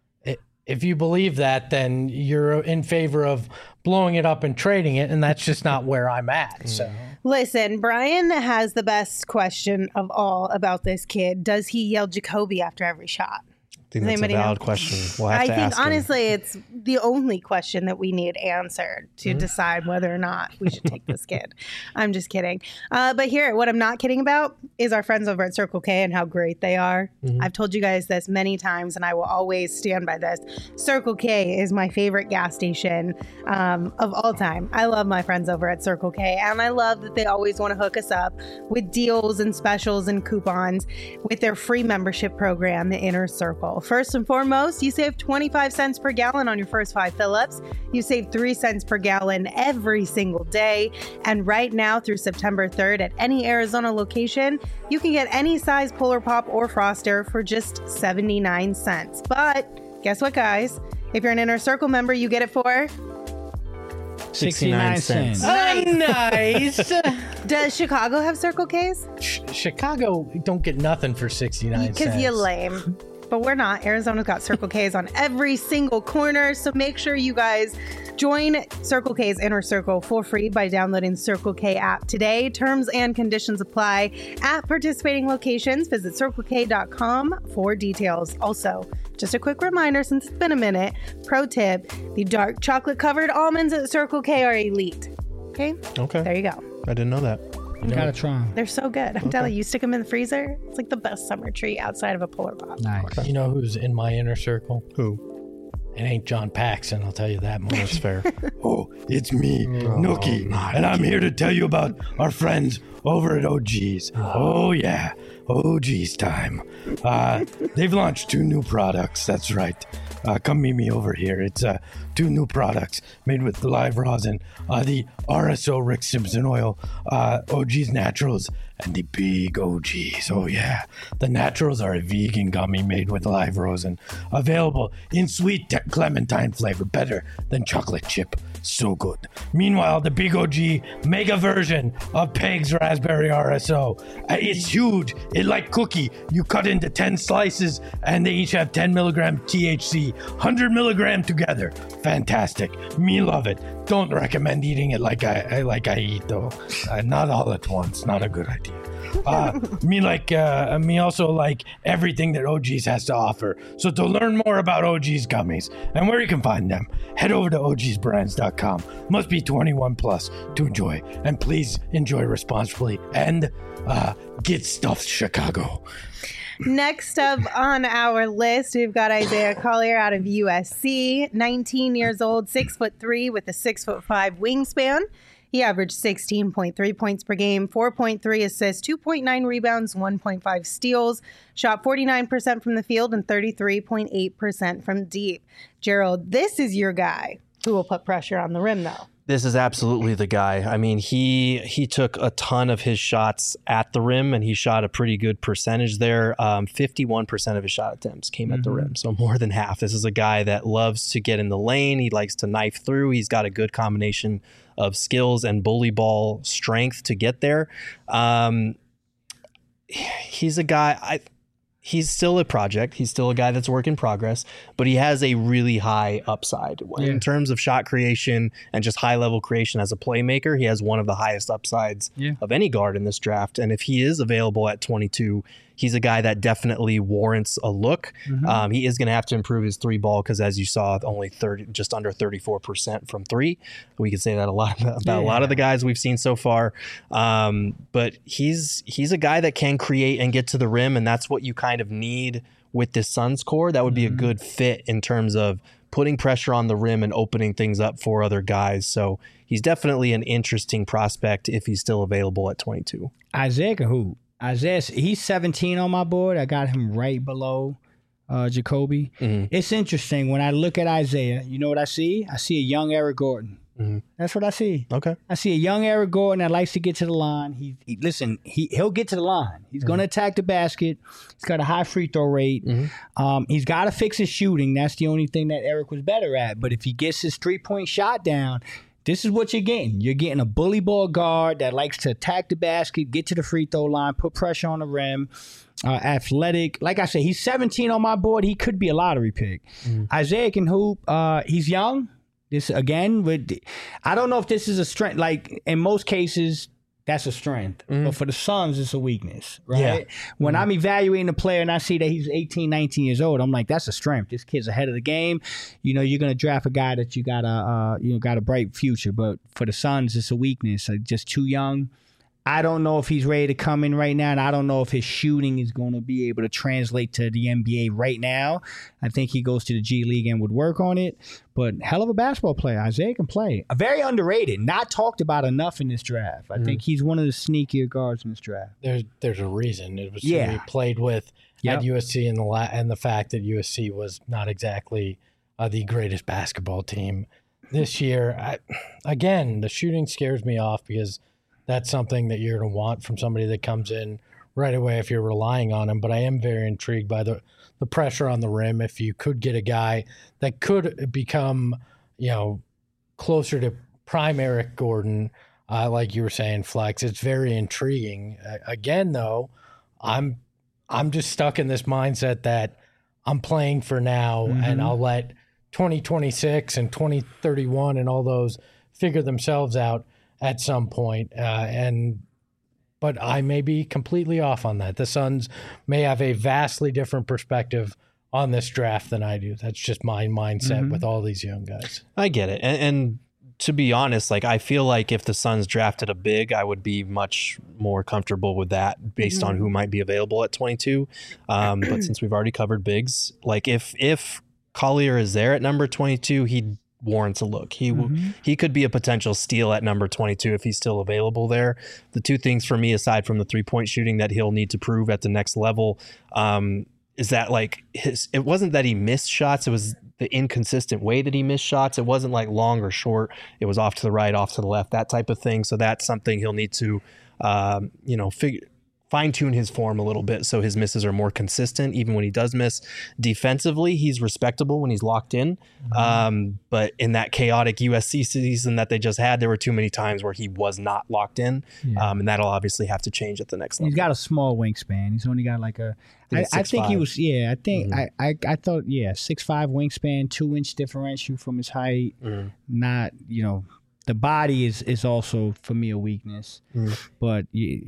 if you believe that, then you're in favor of blowing it up and trading it, and that's just not where I'm at. So Listen, Brian has the best question of all about this kid. Does he yell Jacoby after every shot? I think that's a anybody valid know? question. We'll have I to think ask him. honestly, it's the only question that we need answered to decide whether or not we should take this kid. I'm just kidding. But here, what I'm not kidding about is our friends over at Circle K and how great they are. I've told you guys this many times, and I will always stand by this. Circle K is my favorite gas station of all time. I love my friends over at Circle K, and I love that they always want to hook us up with deals and specials and coupons with their free membership program, the Inner Circle. First and foremost, you save 25 cents per gallon on your first 5 fill-ups. You save 3 cents per gallon every single day. And right now through September 3rd at any Arizona location, you can get any size Polar Pop or Froster for just 79 cents. But guess what, guys? If you're an Inner Circle member, you get it for 69 cents. nice. Does Chicago have Circle Ks? Chicago don't get nothing for 69 cents. Because you're lame. But we're not. Arizona's got Circle Ks on every single corner. So make sure you guys join Circle K's Inner Circle for free by downloading Circle K app today. Terms and conditions apply at participating locations. Visit CircleK.com for details. Also, just a quick reminder, since it's been a minute, pro tip, the dark chocolate covered almonds at Circle K are elite. Okay? Okay. There you go. I didn't know that. Gotta try 'em. They're so good. I'm telling you, stick them in the freezer. It's like the best summer treat outside of a Polar Pop. Nice. You know who's in my inner circle? Who? It ain't John Paxson, I'll tell you that much. That's fair. Oh, it's me, Nookie, and I'm here to tell you about our friends over at OG's. Oh, yeah, OG's time. They've launched 2 new products, that's right. come meet me over here. It's 2 new products made with live rosin, the RSO Rick Simpson oil, OG's Naturals, and the Big OGs. Oh yeah, the Naturals are a vegan gummy made with live rosin, available in sweet clementine flavor, better than chocolate chip. So good. Meanwhile, the Big OG mega version of Peg's Raspberry RSO. It's huge. It's like cookie. You cut into 10 slices and they each have 10 milligram THC, 100 milligram together. Fantastic. Me love it. Don't recommend eating it like I eat though. Not all at once. Not a good idea. Me also like everything that OG's has to offer. So to learn more about OG's gummies and where you can find them, head over to ogsbrands.com. Must be 21 plus to enjoy, and please enjoy responsibly and get stuffed, Chicago. Next up on our list, we've got Isaiah Collier out of USC, 19 years old, 6'3" with a 6'5" wingspan. He averaged 16.3 points per game, 4.3 assists, 2.9 rebounds, 1.5 steals, shot 49% from the field and 33.8% from deep. Gerald, this is your guy who will put pressure on the rim, though. This is absolutely the guy. I mean, he took a ton of his shots at the rim, and he shot a pretty good percentage there. 51% of his shot attempts came at the rim, so more than half. This is a guy that loves to get in the lane. He likes to knife through. He's got a good combination of skills and bully ball strength to get there. He's a guy... He's still a project. He's still a guy that's work in progress, but he has a really high upside. In terms of shot creation and just high level creation as a playmaker, he has one of the highest upsides of any guard in this draft. And if he is available at 22, he's a guy that definitely warrants a look. He is going to have to improve his 3 ball because, as you saw, only just under 34% from 3. We could say that a lot about a lot of the guys we've seen so far. But he's a guy that can create and get to the rim, and that's what you kind of need with this Suns core. That would be a good fit in terms of putting pressure on the rim and opening things up for other guys. So he's definitely an interesting prospect if he's still available at 22. Isaiah can hoop. Isaiah, he's 17 on my board. I got him right below Jacoby. It's interesting. When I look at Isaiah, you know what I see? I see a young Eric Gordon. That's what I see. Okay. I see a young Eric Gordon that likes to get to the line. He'll get to the line. He's going to attack the basket. He's got a high free throw rate. He's got to fix his shooting. That's the only thing that Eric was better at. But if he gets his 3-point shot down, this is what you're getting. You're getting a bully ball guard that likes to attack the basket, get to the free throw line, put pressure on the rim, athletic. Like I said, he's 17 on my board. He could be a lottery pick. Isaiah can hoop. He's young. This again, I don't know if this is a strength. Like in most cases, that's a strength. But for the Suns, it's a weakness, right? When I'm evaluating a player and I see that he's 18, 19 years old, I'm like, that's a strength. This kid's ahead of the game. You know, you're going to draft a guy that you got a bright future. But for the Suns, it's a weakness. Just too young. I don't know if he's ready to come in right now, and I don't know if his shooting is going to be able to translate to the NBA right now. I think he goes to the G League and would work on it. But hell of a basketball player. Isaiah can play. Very underrated. Not talked about enough in this draft. I think he's one of the sneakier guards in this draft. There's a reason. It was who he played with at USC, and the fact that USC was not exactly the greatest basketball team this year. Again, the shooting scares me off because that's something that you're going to want from somebody that comes in right away if you're relying on him. But I am very intrigued by the pressure on the rim. If you could get a guy that could become, closer to prime Eric Gordon, like you were saying, Flex, it's very intriguing. Again, though, I'm just stuck in this mindset that I'm playing for now, and I'll let 2026 and 2031 and all those figure themselves out at some point, but I may be completely off on that. The Suns may have a vastly different perspective on this draft than I do. That's just my mindset with all these young guys. I get it. And to be honest, I feel like if the Suns drafted a big, I would be much more comfortable with that based on who might be available at 22. But since we've already covered bigs, if Collier is there at number 22, he warrants a look. He could be a potential steal at number 22 if he's still available there. The two things for me, aside from the 3-point shooting that he'll need to prove at the next level, is that it wasn't that he missed shots. It was inconsistent way that he missed shots. It wasn't like long or short. It was off to the right, off to the left, that type of thing. So that's something he'll need to, fine-tune his form a little bit so his misses are more consistent even when he does miss. Defensively, he's respectable when he's locked in. But in that chaotic USC season that they just had, there were too many times where he was not locked in. And that'll obviously have to change at the next level. He's got a small wingspan. He's only got like I think he was, I think, I thought, 6'5" wingspan, 2-inch differential from his height. Not, the body is also, for me, a weakness. But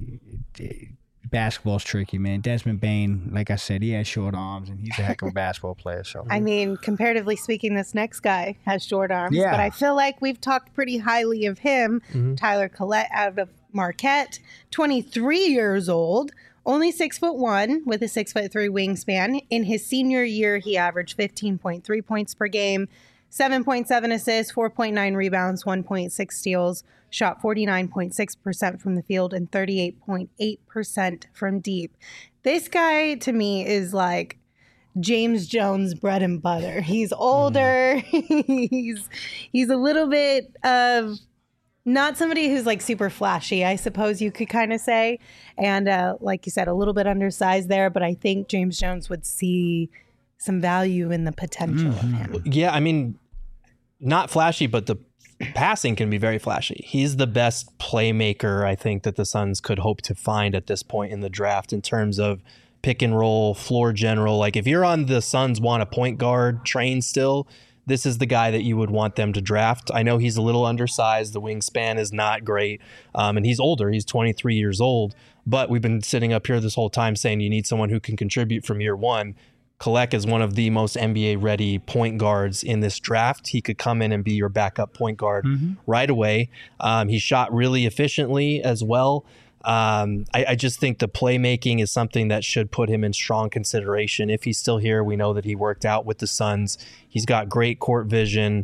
basketball's tricky, man. Desmond Bane, like I said, he has short arms, and he's a heck of a basketball player. So I mean, comparatively speaking, this next guy has short arms, but I feel like we've talked pretty highly of him. Tyler Collette out of Marquette, 23 years old, only 6'1" with a 6'3" wingspan. In his senior year, he averaged 15.3 points per game, 7.7 assists, 4.9 rebounds, 1.6 steals, shot 49.6% from the field and 38.8% from deep. This guy, to me, is like James Jones bread and butter. He's older. He's a little bit of not somebody who's like super flashy, I suppose you could kind of say. And like you said, a little bit undersized there, but I think James Jones would see some value in the potential of him. Yeah, I mean, not flashy, but the passing can be very flashy. He's the best playmaker I think that the Suns could hope to find at this point in the draft in terms of pick and roll, floor general. Like if you're on the Suns want a point guard train still, this is the guy that you would want them to draft. I know he's a little undersized. The wingspan is not great. And he's older. He's 23 years old. But we've been sitting up here this whole time saying you need someone who can contribute from year one. Collette is one of the most NBA-ready point guards in this draft. He could come in and be your backup point guard right away. He shot really efficiently as well. I just think the playmaking is something that should put him in strong consideration. If he's still here, we know that he worked out with the Suns. He's got great court vision.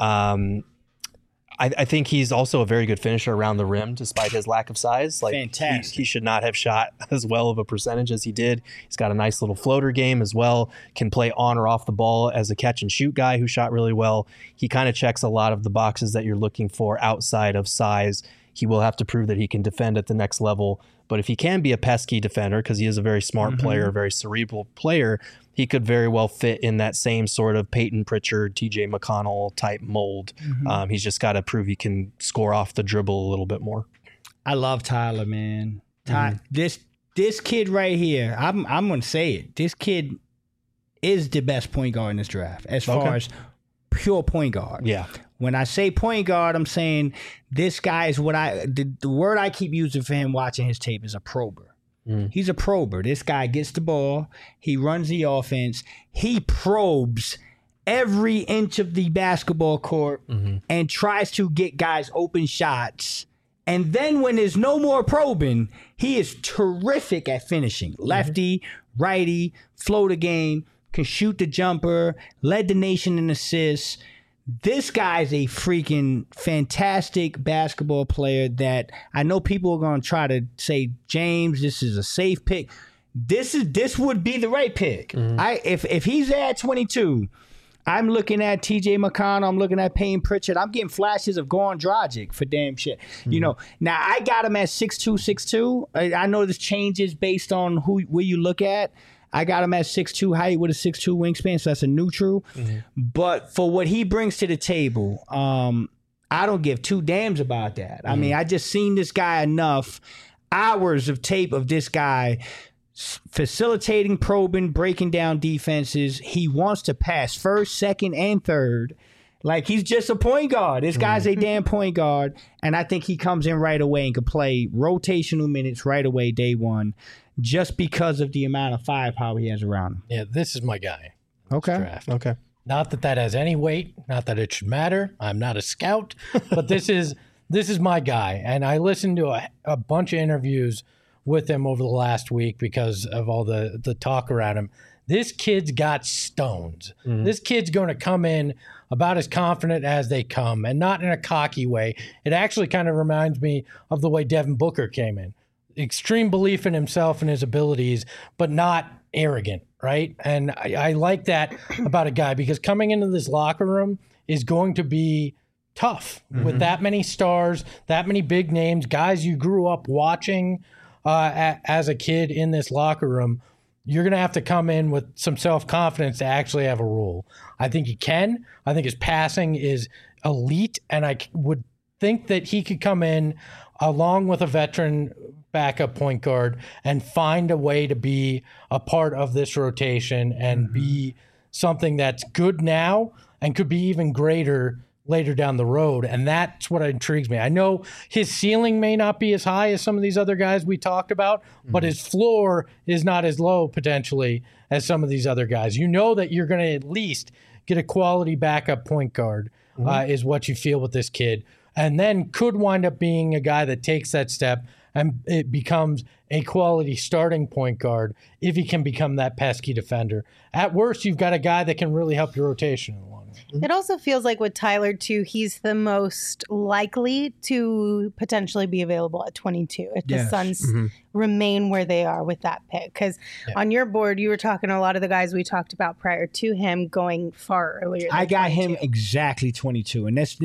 I think he's also a very good finisher around the rim, despite his lack of size. Like fantastic. He should not have shot as well of a percentage as he did. He's got a nice little floater game as well. Can play on or off the ball as a catch and shoot guy who shot really well. He kind of checks a lot of the boxes that you're looking for outside of size. He will have to prove that he can defend at the next level. But if he can be a pesky defender, because he is a very smart player, a very cerebral player, he could very well fit in that same sort of Peyton Pritchard, TJ McConnell type mold. He's just got to prove he can score off the dribble a little bit more. I love Tyler, man. This kid right here, I'm going to say it. This kid is the best point guard in this draft as far as pure point guard. Yeah. When I say point guard, I'm saying this guy is what the word I keep using for him watching his tape is a prober. He's a prober. This guy gets the ball. He runs the offense. He probes every inch of the basketball court and tries to get guys open shots. And then when there's no more probing, he is terrific at finishing. Lefty, righty, floater game, can shoot the jumper, led the nation in assists. This guy's a freaking fantastic basketball player that I know people are going to try to say, James, this is a safe pick. This would be the right pick. If he's there at 22, I'm looking at TJ McConnell, I'm looking at Payne Pritchard. I'm getting flashes of Goran Dragic for damn shit. You know, now I got him at 6'2". I know this changes based on where you look at. I got him at 6'2" height with a 6'2" wingspan, so that's a neutral. But for what he brings to the table, I don't give two damns about that. I mean, I just seen this guy enough hours of tape of this guy facilitating, probing, breaking down defenses. He wants to pass first, second, and third. Like, he's just a point guard. This guy's a damn point guard, and I think he comes in right away and can play rotational minutes right away, day one, just because of the amount of firepower he has around him. Yeah, this is my guy. Okay. Draft. Okay. Not that has any weight. Not that it should matter. I'm not a scout, but this is my guy. And I listened to a bunch of interviews with him over the last week because of all the talk around him. This kid's got stones. This kid's going to come in about as confident as they come, and not in a cocky way. It actually kind of reminds me of the way Devin Booker came in. Extreme belief in himself and his abilities, but not arrogant right? And I like that about a guy because coming into this locker room is going to be tough with that many stars, that many big names, guys you grew up watching as a kid in this locker room. You're going to have to come in with some self-confidence to actually have a role. I think he can. I think his passing is elite, and I would think that he could come in along with a veteran backup point guard and find a way to be a part of this rotation and be something that's good now and could be even greater later down the road. And that's what intrigues me. I know his ceiling may not be as high as some of these other guys we talked about, but his floor is not as low potentially as some of these other guys. You know that you're going to at least get a quality backup point guard is what you feel with this kid. And then could wind up being a guy that takes that step and it becomes a quality starting point guard if he can become that pesky defender. At worst, you've got a guy that can really help your rotation along. It also feels like with Tyler, too, he's the most likely to potentially be available at 22 if the Suns remain where they are with that pick. Because on your board, you were talking a lot of the guys we talked about prior to him going far earlier. I got him exactly 22. And it's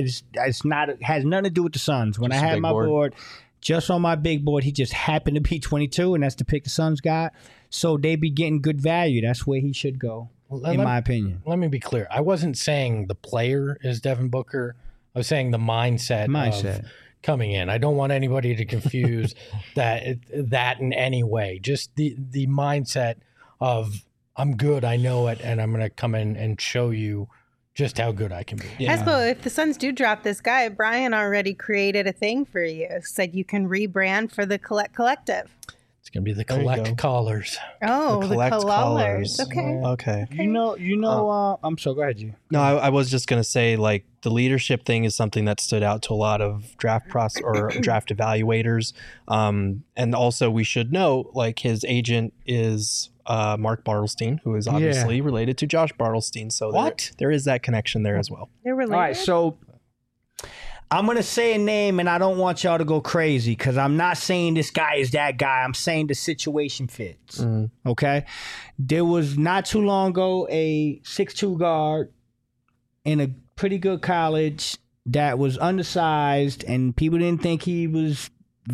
not, it has nothing to do with the Suns. When I had my board, just on my big board, he just happened to be 22, and that's the pick the Suns got. So they be getting good value. That's where he should go. In my opinion. Let me be clear. I wasn't saying the player is Devin Booker. I was saying the mindset. Of coming in. I don't want anybody to confuse that in any way. Just the mindset of I'm good, I know it, and I'm going to come in and show you just how good I can be. Yeah. Espo, if the Suns do drop this guy, Brian already created a thing for you. Said you can rebrand for the Collect Collective. It's going to be the Collect Callers. Oh, the Collect Callers. Okay. You know. I'm sorry. Go ahead, you. No, I was just going to say, like, the leadership thing is something that stood out to a lot of draft draft evaluators. And also, we should note, like, his agent is Mark Bartelstein, who is obviously related to Josh Bartelstein. So there is that connection there as well. They're related. All right, so I'm going to say a name, and I don't want y'all to go crazy because I'm not saying this guy is that guy. I'm saying the situation fits, okay? There was not too long ago a 6'2 guard in a pretty good college that was undersized, and people didn't think he was,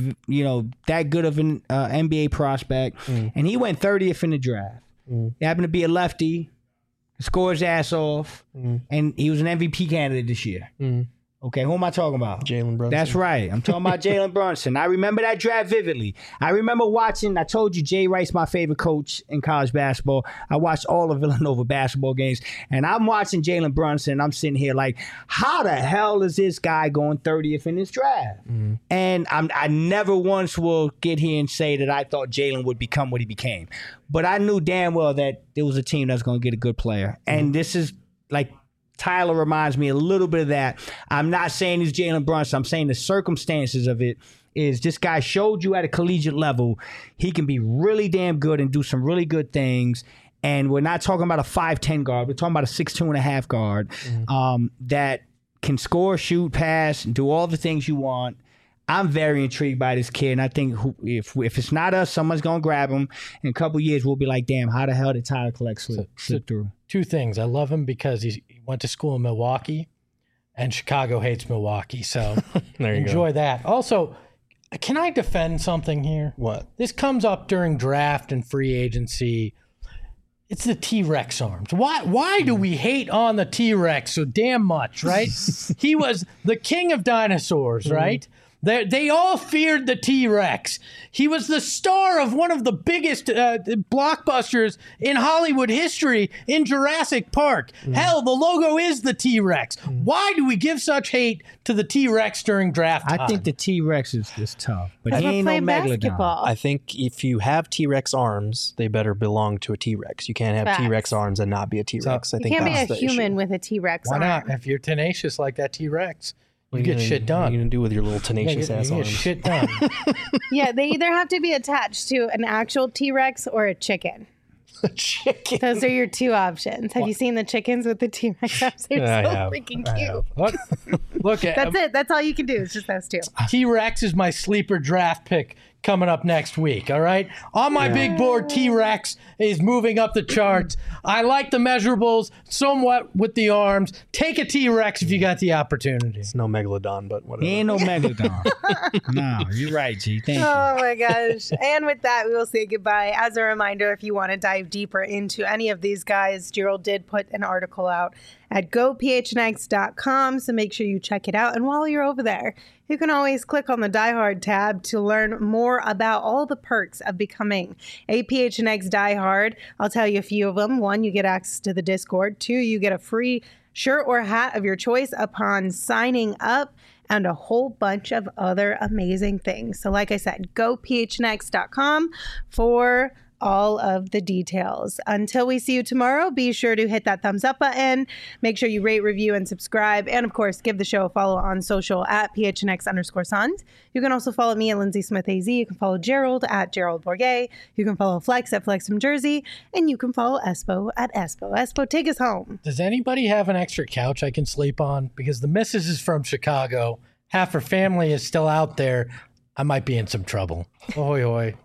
that good of an NBA prospect, and he went 30th in the draft. He happened to be a lefty, scored his ass off, and he was an MVP candidate this year. Okay, who am I talking about? Jalen Brunson. That's right. I'm talking about Jalen Brunson. I remember that draft vividly. I remember watching, I told you Jay Wright's my favorite coach in college basketball. I watched all of Villanova basketball games, and I'm watching Jalen Brunson, and I'm sitting here like, how the hell is this guy going 30th in this draft? And I never once will get here and say that I thought Jalen would become what he became. But I knew damn well that there was a team that's going to get a good player. And this is like, Tyler reminds me a little bit of that. I'm not saying he's Jalen Brunson. I'm saying the circumstances of it is this guy showed you at a collegiate level he can be really damn good and do some really good things. And we're not talking about a 5'10 guard. We're talking about a 6'2.5 guard that can score, shoot, pass, and do all the things you want. I'm very intrigued by this kid, and I think if it's not us, someone's going to grab him. In a couple of years, we'll be like, damn, how the hell did Tyler Collect slip through? Two things. I love him because he went to school in Milwaukee, and Chicago hates Milwaukee. So there you enjoy that. Also, can I defend something here? What? This comes up during draft and free agency. It's the T-Rex arms. Why do we hate on the T-Rex so damn much, right? He was the king of dinosaurs, right? They all feared the T-Rex. He was the star of one of the biggest blockbusters in Hollywood history in Jurassic Park. Hell, the logo is the T-Rex. Why do we give such hate to the T-Rex during draft time? I think the T-Rex is tough, but he We're ain't no playing megalodon. basketball. I think if you have T-Rex arms, they better belong to a T-Rex. You can't have Facts. T-Rex arms and not be a T-Rex. I You think can't be that's a the human issue. with a T-Rex Why arm. not? If you're tenacious like that T-Rex, you What are get gonna- shit What are done. you going to do with your little tenacious ass You get arms? shit done. Yeah, they either have to be attached to an actual T-Rex or a chicken. Chicken. Those are your two options. Have you seen the chickens with the T-Rex arms? They're I so have. freaking cute. Look at That's it. That's all you can do. It's just those two. T-Rex is my sleeper draft pick coming up next week. All right. On my big board, T-Rex is moving up the charts. I like the measurables somewhat with the arms. Take a T-Rex if you got the opportunity. It's no megalodon, but whatever. He ain't no megalodon. No, you're right, G. Thank you. Oh my gosh. And with that, we will say goodbye. As a reminder, if you want to dive deeper into any of these guys, Gerald did put an article out at gophnx.com, so make sure you check it out. And while you're over there, you can always click on the Die Hard tab to learn more about all the perks of becoming a PHNX Die Hard. I'll tell you a few of them. 1, you get access to the Discord. 2, you get a free shirt or hat of your choice upon signing up, and a whole bunch of other amazing things. So like I said, gophnx.com for all of the details. Until we see you tomorrow, be sure to hit that thumbs up button. Make sure you rate, review, and subscribe. And of course, give the show a follow on social at PHNX_Sons. You can also follow me at Lindsay Smith AZ. You can follow Gerald at Gerald Bourget. You can follow Flex at Flex from Jersey. And you can follow Espo at Espo. Espo, take us home. Does anybody have an extra couch I can sleep on? Because the missus is from Chicago. Half her family is still out there. I might be in some trouble. Oi, oi.